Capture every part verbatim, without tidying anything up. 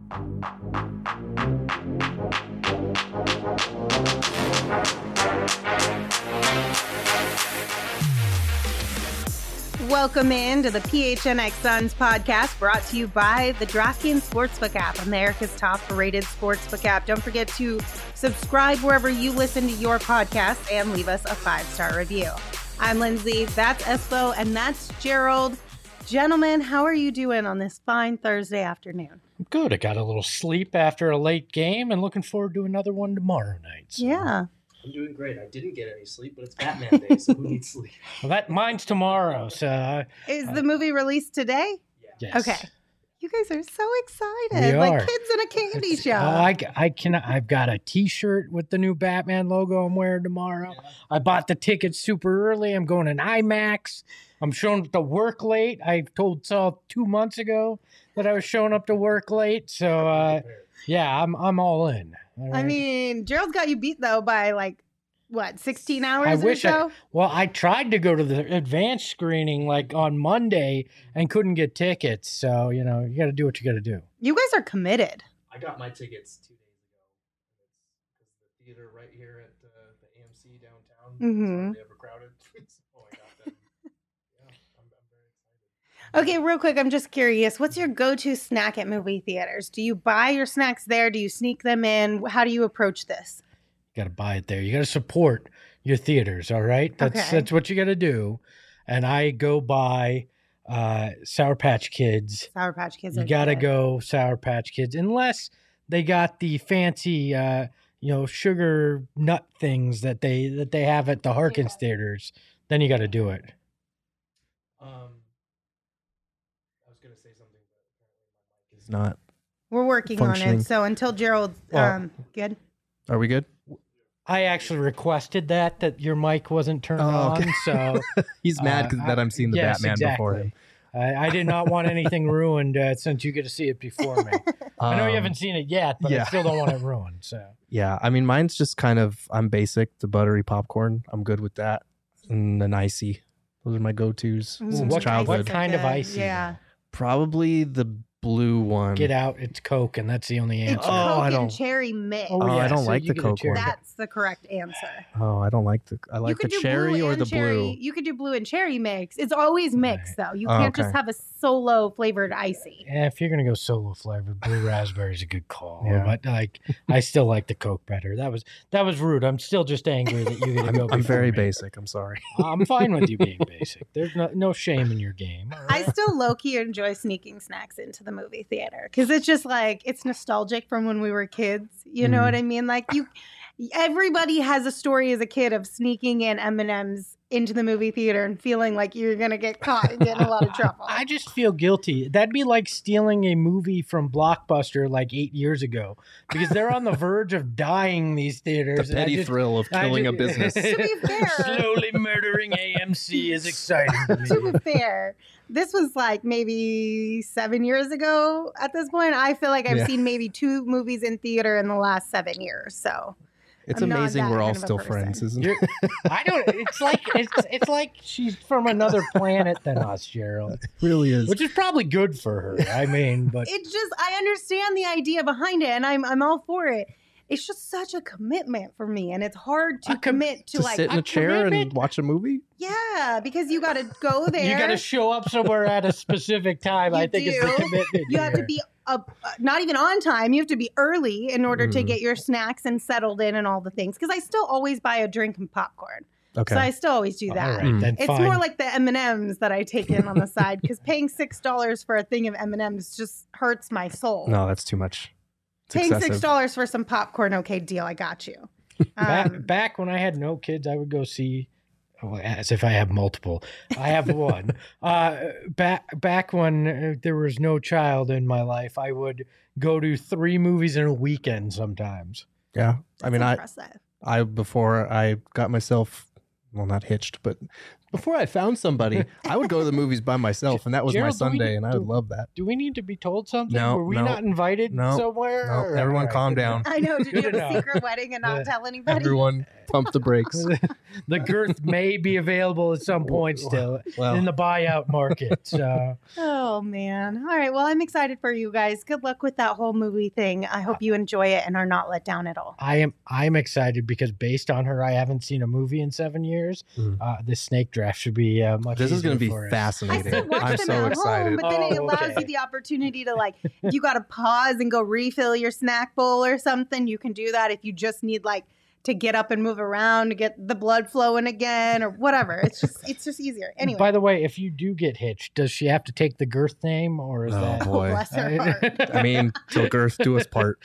Welcome in to the P H N X Suns podcast, brought to you by the DraftKings Sportsbook app, America's top-rated sportsbook app. Don't forget to subscribe wherever you listen to your podcast and leave us a five-star review. I'm Lindsay, that's Espo, and that's Gerald. Gentlemen, how are you doing on this fine Thursday afternoon? Good. I got a little sleep after a late game and looking forward to another one tomorrow night. So. Yeah. I'm doing great. I didn't get any sleep, but it's Batman Day, so who needs sleep? Well, that mine's tomorrow. So uh, Is the movie released today? yes. Okay. You guys are so excited, We like are. kids in a candy It's- shop. Oh, I, I can. I've got a T-shirt with the new Batman logo I'm wearing tomorrow. Yeah. I bought the tickets super early. I'm going in IMAX. I'm showing up to work late. I told Saul two months ago that I was showing up to work late. So uh, yeah, I'm I'm all in. All I right? mean, Gerald's got you beat, though, by like, what, sixteen hours I or wish I- so? Well, I tried to go to the advanced screening like on Monday and couldn't get tickets. So, you know, you got to do what you got to do. You guys are committed. I got my tickets two days ago. It's the theater right here at uh, the A M C downtown. Mhm. It's hardly ever crowded. Oh, I got them. Yeah, I'm, I'm very excited. Okay, real quick, I'm just curious. What's your go-to snack at movie theaters? Do you buy your snacks there? Do you sneak them in? How do you approach this? You got to buy it there. You got to support your theaters. All right. That's, Okay. that's what you got to do. And I go buy uh, Sour Patch Kids. Sour Patch Kids. You are got to good. go Sour Patch Kids, unless they got the fancy, uh, you know, sugar nut things that they that they have at the Harkins theaters. Then you got to do it. Um, I was going to say something, but apparently my mic is not. We're working on functioning. it. So until Gerald, Well- um, good. Are we good? I actually requested that that your mic wasn't turned Oh, okay. on, so He's mad Uh, because that I'm seeing the yes, Batman before him. exactly. I, I did not want anything ruined uh, since you get to see it before me. I know you Um, haven't seen it yet, but yeah. I still don't want it ruined. So Yeah, I mean, mine's just kind of, I'm basic, the buttery popcorn. I'm good with that. And an icy. Those are my go-tos Ooh, since what- childhood. what kind of Good. icy, Yeah. Probably the blue one. get out. It's Coke, and that's the only It's answer. Oh, Coke I and don't- cherry mix. Oh, Oh, I yeah, don't so like you the get a Coke cherry. one. That's the correct answer. Oh, I don't like the, I like you the could do cherry blue or and the cherry. blue. You could do blue and cherry mix. It's always mixed, though. You Oh, can't just okay. have a solo flavored icy. Yeah, if you're gonna go solo flavored, blue raspberry is a good call. Yeah. But like, I still like the Coke better. That was that was rude. I'm still just angry that you get to I'm, go. I'm before very me. basic. I'm sorry. I'm fine with you being basic. There's no no shame in your game. all I right? still low key enjoy sneaking snacks into the movie theater because it's just like it's nostalgic from when we were kids. You know Mhm. what I mean? Like you, everybody has a story as a kid of sneaking in M and M's into the movie theater and feeling like you're gonna get caught and get in a lot of trouble. I just feel guilty. That'd be like stealing a movie from Blockbuster like eight years ago because they're on the verge of dying, these The theaters. and I petty just- thrill of I killing a ju- business. To be fair- Slowly murdering A M C is exciting to me. To be fair, this was like maybe seven years ago at this point. I feel like I've Yeah. seen maybe two movies in theater in the last seven years. So It's I'm not amazing that we're all kind of a still person. friends, isn't You're- it? I don't. It's like it's it's like she's from another planet than us, Gerald, It really is. which is probably good for her. I mean, but it's just I understand the idea behind it, and I'm I'm all for it. It's just such a commitment for me, and it's hard to A com- commit to, to like sit in a a chair and commitment? watch a movie? yeah, because you got to go there. you got to show up somewhere at a specific time. I You think it's the do. commitment. You have to here. be up, uh, not even on time. You have to be early in order to Mhm. get your snacks and settled in and all the things. Because I still always buy a drink and popcorn, Okay. so I still always do All that. right, Mm. then It's fine. more like the M and M's that I take in on the side because paying six dollars for a thing of M and M's just hurts my soul. no, that's too much. It's Paying excessive. six dollars for some popcorn, okay, deal. I got you. back, Um, back when I had no kids, I would go see. Oh, as if I have multiple. I have one. Uh, back back when uh, there was no child in my life, I would go to three movies in a weekend sometimes. Yeah. I mean, I, impressive. I, before I got myself, well, not hitched, but Before I found somebody, I would go to the movies by myself, and that was Gerald, my Sunday, we, and I do, would love that. Do we need to be told something? No, Were we no, not invited no, somewhere? No, Or, everyone right, calm down. I know. Did you have a enough. secret wedding and not Yeah. tell anybody? Everyone pump the brakes. The girth may be available at some point still Well. in the buyout market. So. Oh, man. All right. Well, I'm excited for you guys. Good luck with that whole movie thing. I hope you enjoy it and are not let down at all. I am I'm excited because based on her, I haven't seen a movie in seven years. Mm. Uh, this snake draft should be uh, much. This is going to be for us. I fascinating. still watch I'm them so at home, excited. but then it Oh, allows okay. you the opportunity to, like, if you got to pause and go refill your snack bowl or something, you can do that. If you just need, like, to get up and move around to get the blood flowing again or whatever. It's just it's just easier. Anyway. By the way, if you do get hitched, does she have to take the girth name or is Oh, that? boy. Bless her heart. I mean, till girth do us part.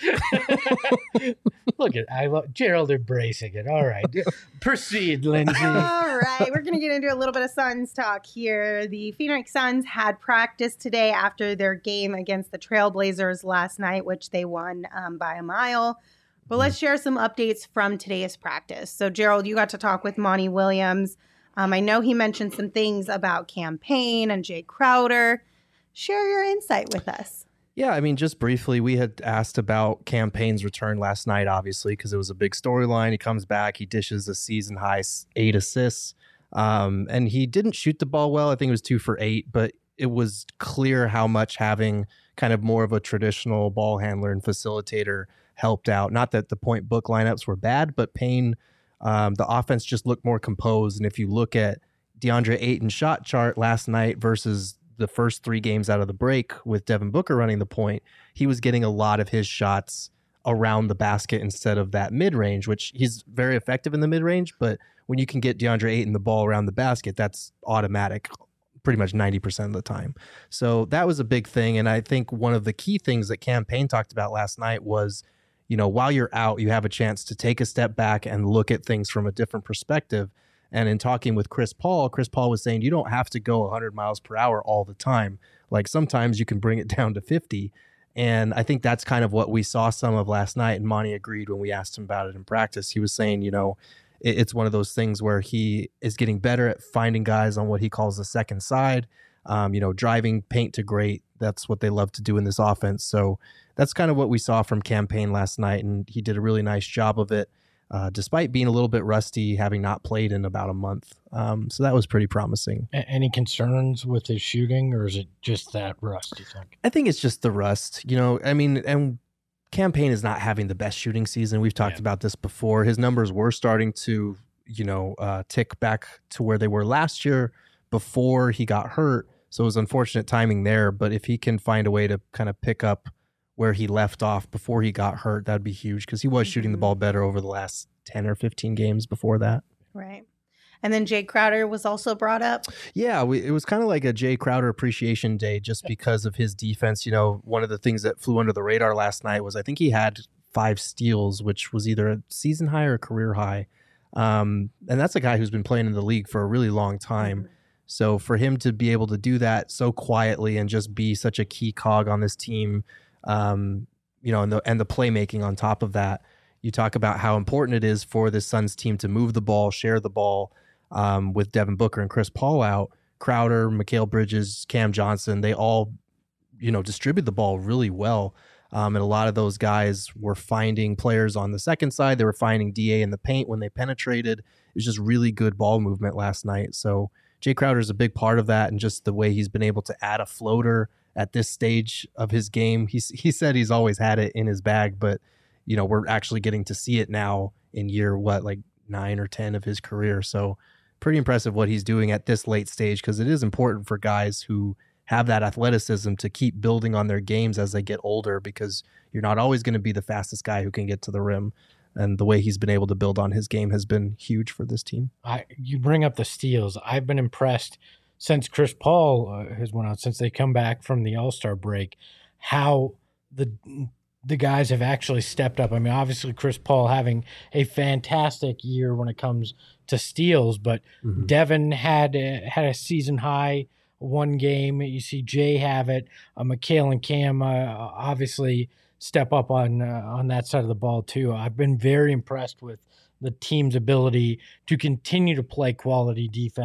Look at I love Gerald embracing it. All right, proceed, Lindsay. All right, we're going to get into a little bit of Suns talk here. The Phoenix Suns had practice today after their game against the Trailblazers last night, which they won um, by a mile. But let's share some updates from today's practice. So, Gerald, you got to talk with Monty Williams. Um, I know he mentioned some things about campaign and Jay Crowder. Share your insight with us. Yeah, I mean, just briefly, we had asked about Campaign's return last night, obviously, because it was a big storyline. He comes back, he dishes a season high eight assists, um, and he didn't shoot the ball well. I think it was two for eight, but it was clear how much having kind of more of a traditional ball handler and facilitator helped out. Not that the point book lineups were bad, but Payne, um, the offense just looked more composed. And if you look at DeAndre Ayton's shot chart last night versus the first three games out of the break with Devin Booker running the point, he was getting a lot of his shots around the basket instead of that mid-range, which he's very effective in the mid-range. But when you can get DeAndre Ayton the ball around the basket, that's automatic pretty much ninety percent of the time. So that was a big thing. And I think one of the key things that Cam Payne talked about last night was, you know, while you're out, you have a chance to take a step back and look at things from a different perspective. And in talking with Chris Paul, Chris Paul was saying you don't have to go one hundred miles per hour all the time. Like sometimes you can bring it down to fifty. And I think that's kind of what we saw some of last night. And Monty agreed when we asked him about it in practice. He was saying, you know, it, it's one of those things where he is getting better at finding guys on what he calls the second side, um, you know, driving paint to great. That's what they love to do in this offense. So that's kind of what we saw from Cam Payne last night. And he did a really nice job of it. Uh, despite being a little bit rusty, having not played in about a month. Um, so that was pretty promising. A- Any concerns with his shooting, or is it just that rust, you think? I think it's just the rust. You know, I mean, and Cam Payne is not having the best shooting season. We've talked Yeah. about this before. His numbers were starting to, you know, uh, tick back to where they were last year before he got hurt. So it was unfortunate timing there. But if he can find a way to kind of pick up where he left off before he got hurt, that'd be huge because he was shooting the ball better over the last ten or fifteen games before that. Right. And then Jay Crowder was also brought up. Yeah, we, it was kind of like a Jay Crowder appreciation day just because of his defense. You know, one of the things that flew under the radar last night was I think he had five steals, which was either a season high or a career high. Um, and that's a guy who's been playing in the league for a really long time. So for him to be able to do that so quietly and just be such a key cog on this team, um, you know, and the, and the playmaking on top of that, you talk about how important it is for this Suns team to move the ball, share the ball, um, with Devin Booker and Chris Paul out. Crowder, Mikal Bridges, Cam Johnson, they all, you know, distribute the ball really well. Um, and a lot of those guys were finding players on the second side. They were finding D A in the paint when they penetrated. It was just really good ball movement last night. So Jay Crowder is a big part of that, and just the way he's been able to add a floater at this stage of his game. He's, he said he's always had it in his bag, but, you know, we're actually getting to see it now in year, what, like nine or ten of his career. So pretty impressive what he's doing at this late stage, because it is important for guys who have that athleticism to keep building on their games as they get older, because you're not always going to be the fastest guy who can get to the rim. And the way he's been able to build on his game has been huge for this team. I you bring up the steals. I've been impressed since Chris Paul uh, has went out, since they come back from the All-Star break, how the the guys have actually stepped up. I mean, obviously Chris Paul having a fantastic year when it comes to steals, but Mm-hmm. Devin had a, had a season high one game. You see Jay have it. Uh, Mikal and Cam uh, obviously step up on uh, on that side of the ball too. I've been very impressed with the team's ability to continue to play quality defense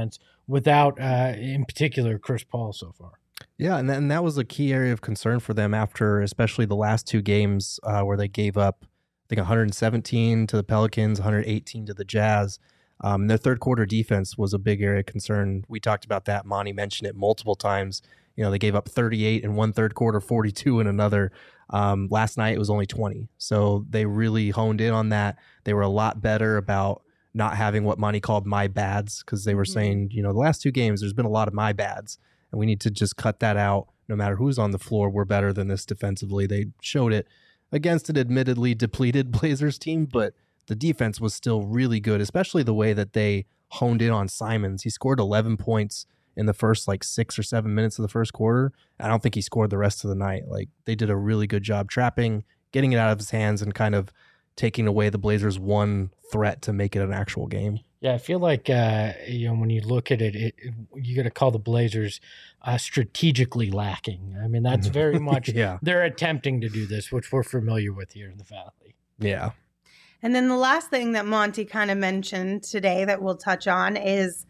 without, uh, in particular, Chris Paul so far. Yeah, and, th- and that was a key area of concern for them after especially the last two games uh, where they gave up, I think, one hundred seventeen to the Pelicans, one hundred eighteen to the Jazz. Um, and their third quarter defense was a big area of concern. We talked about that. Monty mentioned it multiple times. You know, they gave up thirty-eight in one third quarter, forty-two in another. Um, last night it was only twenty. So they really honed in on that. They were a lot better about not having what Monty called my bads, because they were mm-hmm. saying, you know, the last two games, there's been a lot of my bads, and we need to just cut that out. No matter who's on the floor, we're better than this defensively. They showed it against an admittedly depleted Blazers team, but the defense was still really good, especially the way that they honed in on Simons. He scored eleven points in the first like six or seven minutes of the first quarter. I don't think he scored the rest of the night. Like, they did a really good job trapping, getting it out of his hands, and kind of taking away the Blazers' one threat to make it an actual game. Yeah, I feel like uh, you know, when you look at it, it, it you got to call the Blazers uh, strategically lacking. I mean, that's very much yeah. they're attempting to do this, which we're familiar with here in the Valley. Yeah. And then the last thing that Monty kind of mentioned today that we'll touch on is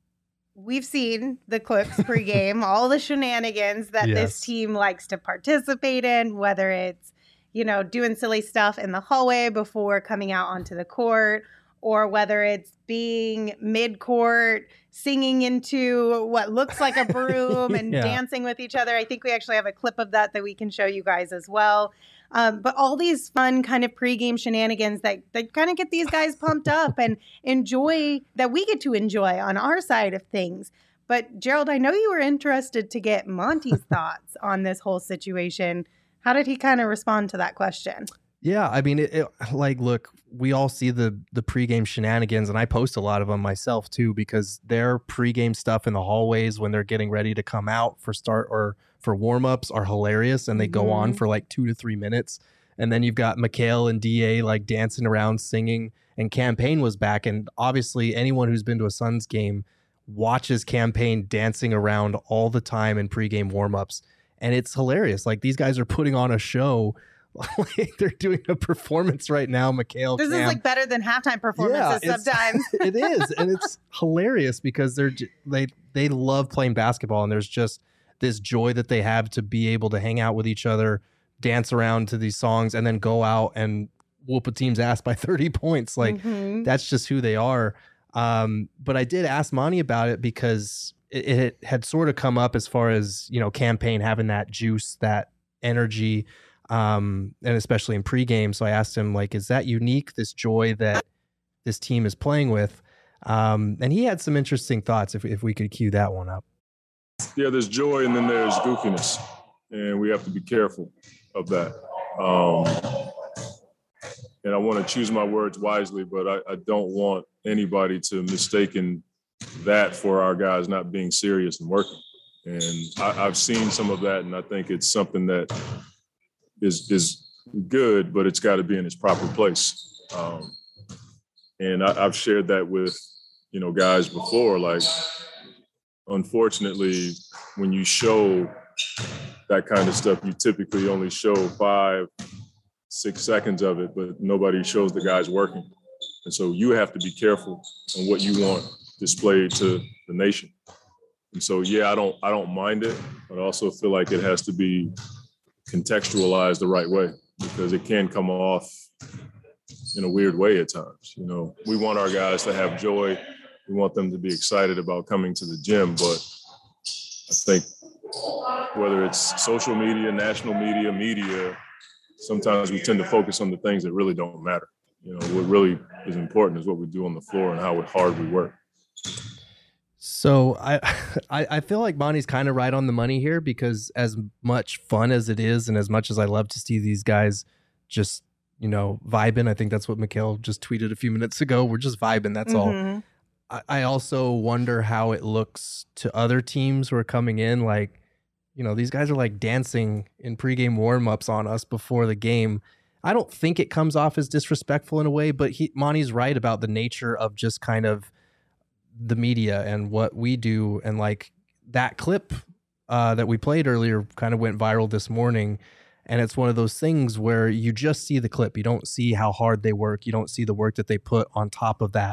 we've seen the clips pregame, all the shenanigans that yes. this team likes to participate in, whether it's, you know, doing silly stuff in the hallway before coming out onto the court, or whether it's being mid-court, singing into what looks like a broom and yeah. dancing with each other. I think we actually have a clip of that that we can show you guys as well. Um, but all these fun kind of pregame shenanigans that, that kind of get these guys pumped up and enjoy, that we get to enjoy on our side of things. But Gerald, I know you were interested to get Monty's thoughts on this whole situation. How did he kind of respond to that question? Yeah, I mean, it, it, like, look, we all see the the pregame shenanigans, and I post a lot of them myself too, because their pregame stuff in the hallways when they're getting ready to come out for start or for warm-ups are hilarious, and they mm-hmm. go on for like two to three minutes. And then you've got Mikal and D A like dancing around, singing, and Campaign was back. And obviously anyone who's been to a Suns game watches Campaign dancing around all the time in pregame warm-ups. And it's hilarious. Like, these guys are putting on a show. Like, they're doing a performance right now. Mikal, this Cam. is like better than halftime performances yeah, sometimes. It is, and it's hilarious because they're they they love playing basketball, and there's just this joy that they have to be able to hang out with each other, dance around to these songs, and then go out and whoop a team's ass by thirty points. Like, mm-hmm. that's just who they are. Um, but I did ask Monty about it because it, it had sort of come up as far as, you know, Campaign having that juice, that energy. Um, and especially in pregame. So I asked him, like, is that unique, this joy that this team is playing with? Um, and he had some interesting thoughts, if if we could cue that one up. Yeah, there's joy and then there's goofiness, and we have to be careful of that. Um, and I want to choose my words wisely, but I, I don't want anybody to mistaken that for our guys not being serious and working. And I, I've seen some of that, and I think it's something that is is good, but it's got to be in its proper place. Um, and I, I've shared that with, you know, guys before. Like, unfortunately, when you show that kind of stuff, you typically only show five, six seconds of it, but nobody shows the guys working. And so you have to be careful on what you want displayed to the nation. And so, yeah, I don't I don't mind it, but I also feel like it has to be contextualized the right way, because it can come off in a weird way at times. You know, we want our guys to have joy. We want them to be excited about coming to the gym. But I think whether it's social media, national media, media, sometimes we tend to focus on the things that really don't matter. You know, what really is important is what we do on the floor and how hard we work. So I, I I feel like Monty's kind of right on the money here, because as much fun as it is, and as much as I love to see these guys just, you know, vibing, I think that's what Mikal just tweeted a few minutes ago. We're just vibing. That's mm-hmm. all. I, I also wonder how it looks to other teams who are coming in. Like, you know, these guys are like dancing in pregame warm-ups on us before the game. I don't think it comes off as disrespectful in a way, but he, Monty's right about the nature of just kind of the media and what we do. And like that clip uh, that we played earlier kind of went viral this morning. And it's one of those things where you just see the clip. You don't see how hard they work. You don't see the work that they put on top of that.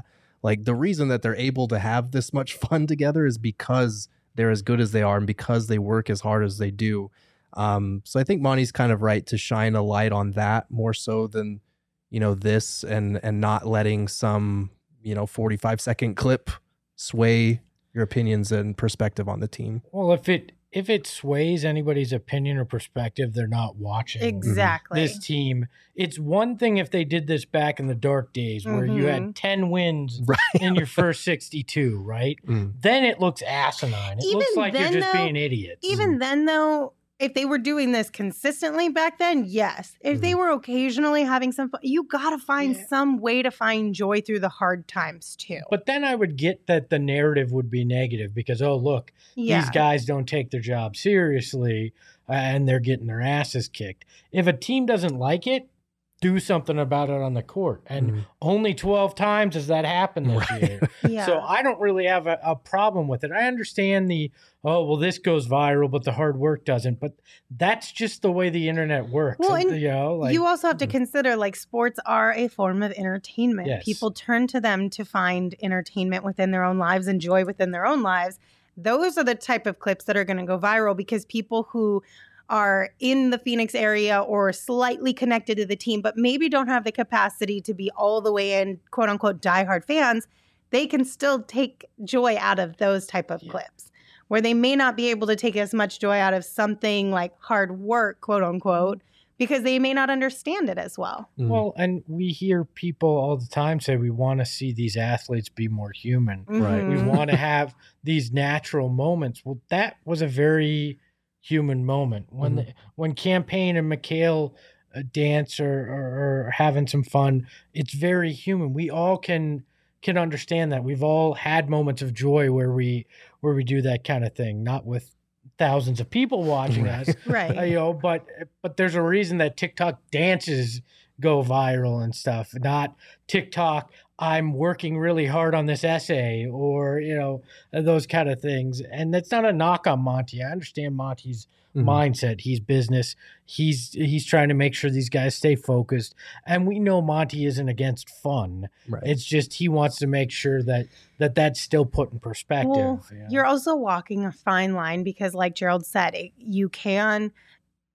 Like the reason that they're able to have this much fun together is because they're as good as they are and because they work as hard as they do. Um, so I think Monty's kind of right to shine a light on that more so than, you know, this and and not letting some, you know, forty-five second clip sway your opinions and perspective on the team. Well, if it if it sways anybody's opinion or perspective, they're not watching exactly this team. It's one thing if they did this back in the dark days where mm-hmm. you had ten wins right. in your first sixty-two, right? Mm. Then it looks asinine. It even looks like then, you're just though, being idiots. Even mm. then, though, if they were doing this consistently back then, yes. If mm. they were occasionally having some fun, you got to find yeah. some way to find joy through the hard times too. But then I would get that the narrative would be negative because, oh, look, yeah. these guys don't take their job seriously uh, and they're getting their asses kicked. If a team doesn't like it, do something about it on the court. And mm. only twelve times has that happened this right. year. yeah. So I don't really have a, a problem with it. I understand the, oh, well, this goes viral, but the hard work doesn't. But that's just the way the internet works. Well, and you know, like, you also have to consider, like, sports are a form of entertainment. Yes. People turn to them to find entertainment within their own lives and joy within their own lives. Those are the type of clips that are going to go viral because people who are in the Phoenix area or slightly connected to the team, but maybe don't have the capacity to be all the way in, quote unquote, diehard fans, they can still take joy out of those type of yeah. clips where they may not be able to take as much joy out of something like hard work, quote unquote, because they may not understand it as well. Mm. Well, and we hear people all the time say we want to see these athletes be more human. Mm-hmm. Right. We want to have these natural moments. Well, that was a very human moment when mm-hmm. the, when Campaign and McHale uh, dance or, or, or having some fun. It's very human. We all can can understand that. We've all had moments of joy where we where we do that kind of thing, not with thousands of people watching right. us, right? Uh, you know, but but there's a reason that TikTok dances go viral and stuff, not TikTok. I'm working really hard on this essay or, you know, those kind of things. And that's not a knock on Monty. I understand Monty's mm-hmm. mindset. He's business. He's he's trying to make sure these guys stay focused. And we know Monty isn't against fun. Right. It's just he wants to make sure that, that that's still put in perspective. Well, you know? You're also walking a fine line because, like Gerald said, it, you can –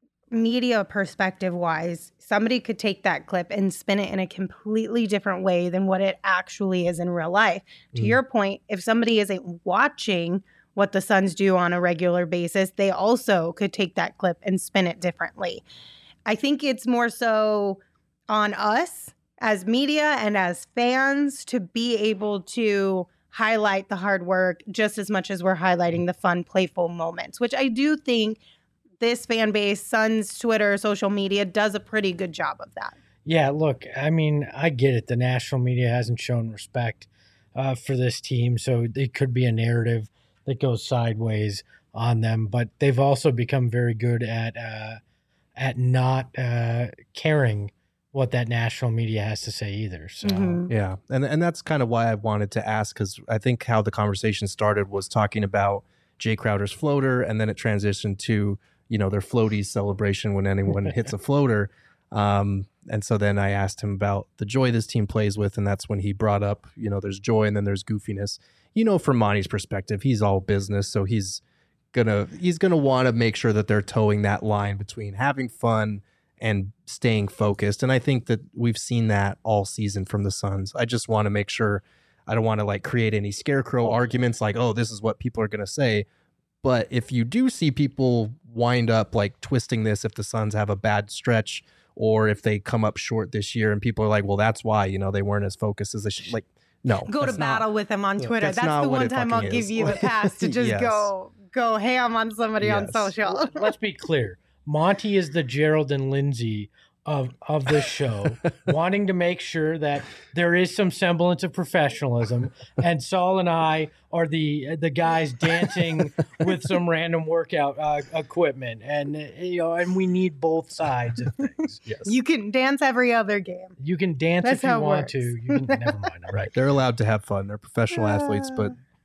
media perspective wise, somebody could take that clip and spin it in a completely different way than what it actually is in real life. Mm. To your point, if somebody isn't watching what the Suns do on a regular basis, they also could take that clip and spin it differently. I think it's more so on us as media and as fans to be able to highlight the hard work just as much as we're highlighting the fun, playful moments, which I do think this fan base, Suns, Twitter, social media does a pretty good job of that. Yeah, look, I mean, I get it. The national media hasn't shown respect uh, for this team, so it could be a narrative that goes sideways on them. But they've also become very good at uh, at not uh, caring what that national media has to say either. So mm-hmm. yeah, and and that's kind of why I wanted to ask, because I think how the conversation started was talking about Jay Crowder's floater, and then it transitioned to, you know, their floaties celebration when anyone hits a floater. Um, and so then I asked him about the joy this team plays with, and that's when he brought up, you know, there's joy and then there's goofiness. You know, from Monty's perspective, he's all business, so he's gonna he's gonna want to make sure that they're towing that line between having fun and staying focused. And I think that we've seen that all season from the Suns. I just want to make sure I don't want to like create any scarecrow arguments like, oh, this is what people are gonna say. But if you do see people wind up like twisting this, if the Suns have a bad stretch or if they come up short this year and people are like, well, that's why, you know, they weren't as focused as they should. Like, no. Go to battle not, with them on Twitter. That's, that's the one time I'll is. give you the pass to just yes. go go ham on somebody yes. on social. Let's be clear. Monty is the Gerald and Lindsay of of this show, wanting to make sure that there is some semblance of professionalism, and Saul and I are the the guys dancing with some random workout uh, equipment, and you know, and we need both sides of things. Yes, you can dance every other game. You can dance That's if you want works. to. You can never mind. Right, they're allowed to have fun. They're professional uh, athletes, but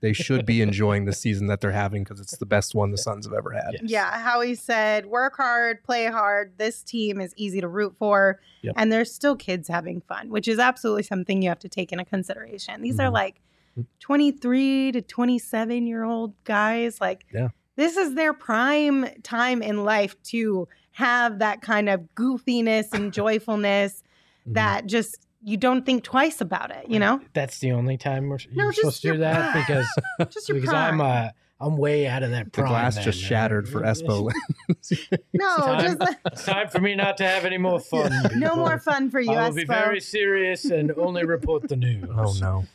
they should be enjoying the season that they're having because it's the best one the Suns have ever had. Yes. Yeah, Howie said, work hard, play hard. This team is easy to root for. Yep. And there's still kids having fun, which is absolutely something you have to take into consideration. These Mhm. are like twenty-three to twenty-seven year old guys. Like, Yeah. this is their prime time in life to have that kind of goofiness and joyfulness Mhm. that just you don't think twice about it, you know? That's the only time we're No, you're just supposed to your do that prime. because Just your because prime. I'm uh I'm way out of that The prime. glass then, just man. shattered for Espo. no, time, just it's time for me not to have any more fun. no people. more fun for you, I will be Espo. very serious and only report the news. Oh no.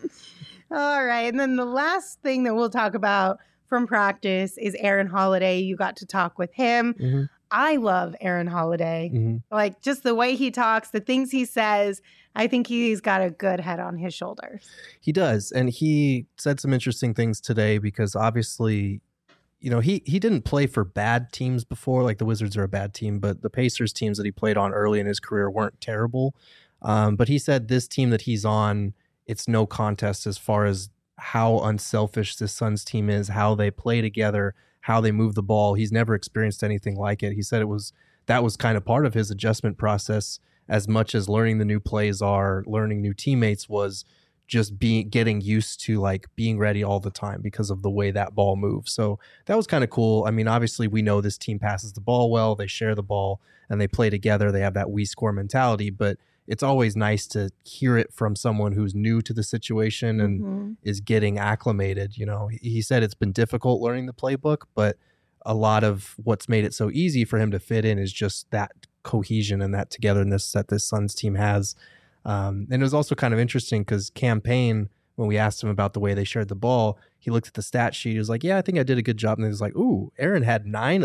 All right. And then the last thing that we'll talk about from practice is Aaron Holiday. You got to talk with him. hmm I love Aaron Holiday. hmm Like just the way he talks, the things he says. I think he's got a good head on his shoulders. He does, and he said some interesting things today because obviously, you know, he he didn't play for bad teams before. Like the Wizards are a bad team, but the Pacers teams that he played on early in his career weren't terrible. Um, but he said this team that he's on, it's no contest as far as how unselfish this Suns team is, how they play together, how they move the ball. He's never experienced anything like it. He said it was that was kind of part of his adjustment process, as much as learning the new plays are, learning new teammates was just being getting used to like being ready all the time because of the way that ball moves. So that was kind of cool. I mean, obviously we know this team passes the ball well, they share the ball and they play together. They have that we score mentality, but it's always nice to hear it from someone who's new to the situation and Mhm. is getting acclimated. You know, he he said it's been difficult learning the playbook, but a lot of what's made it so easy for him to fit in is just that cohesion and that togetherness that this Suns team has. Um, and it was also kind of interesting because Campaign, when we asked him about the way they shared the ball, he looked at the stat sheet. He was like, yeah, I think I did a good job. And he was like, ooh, Aaron had nine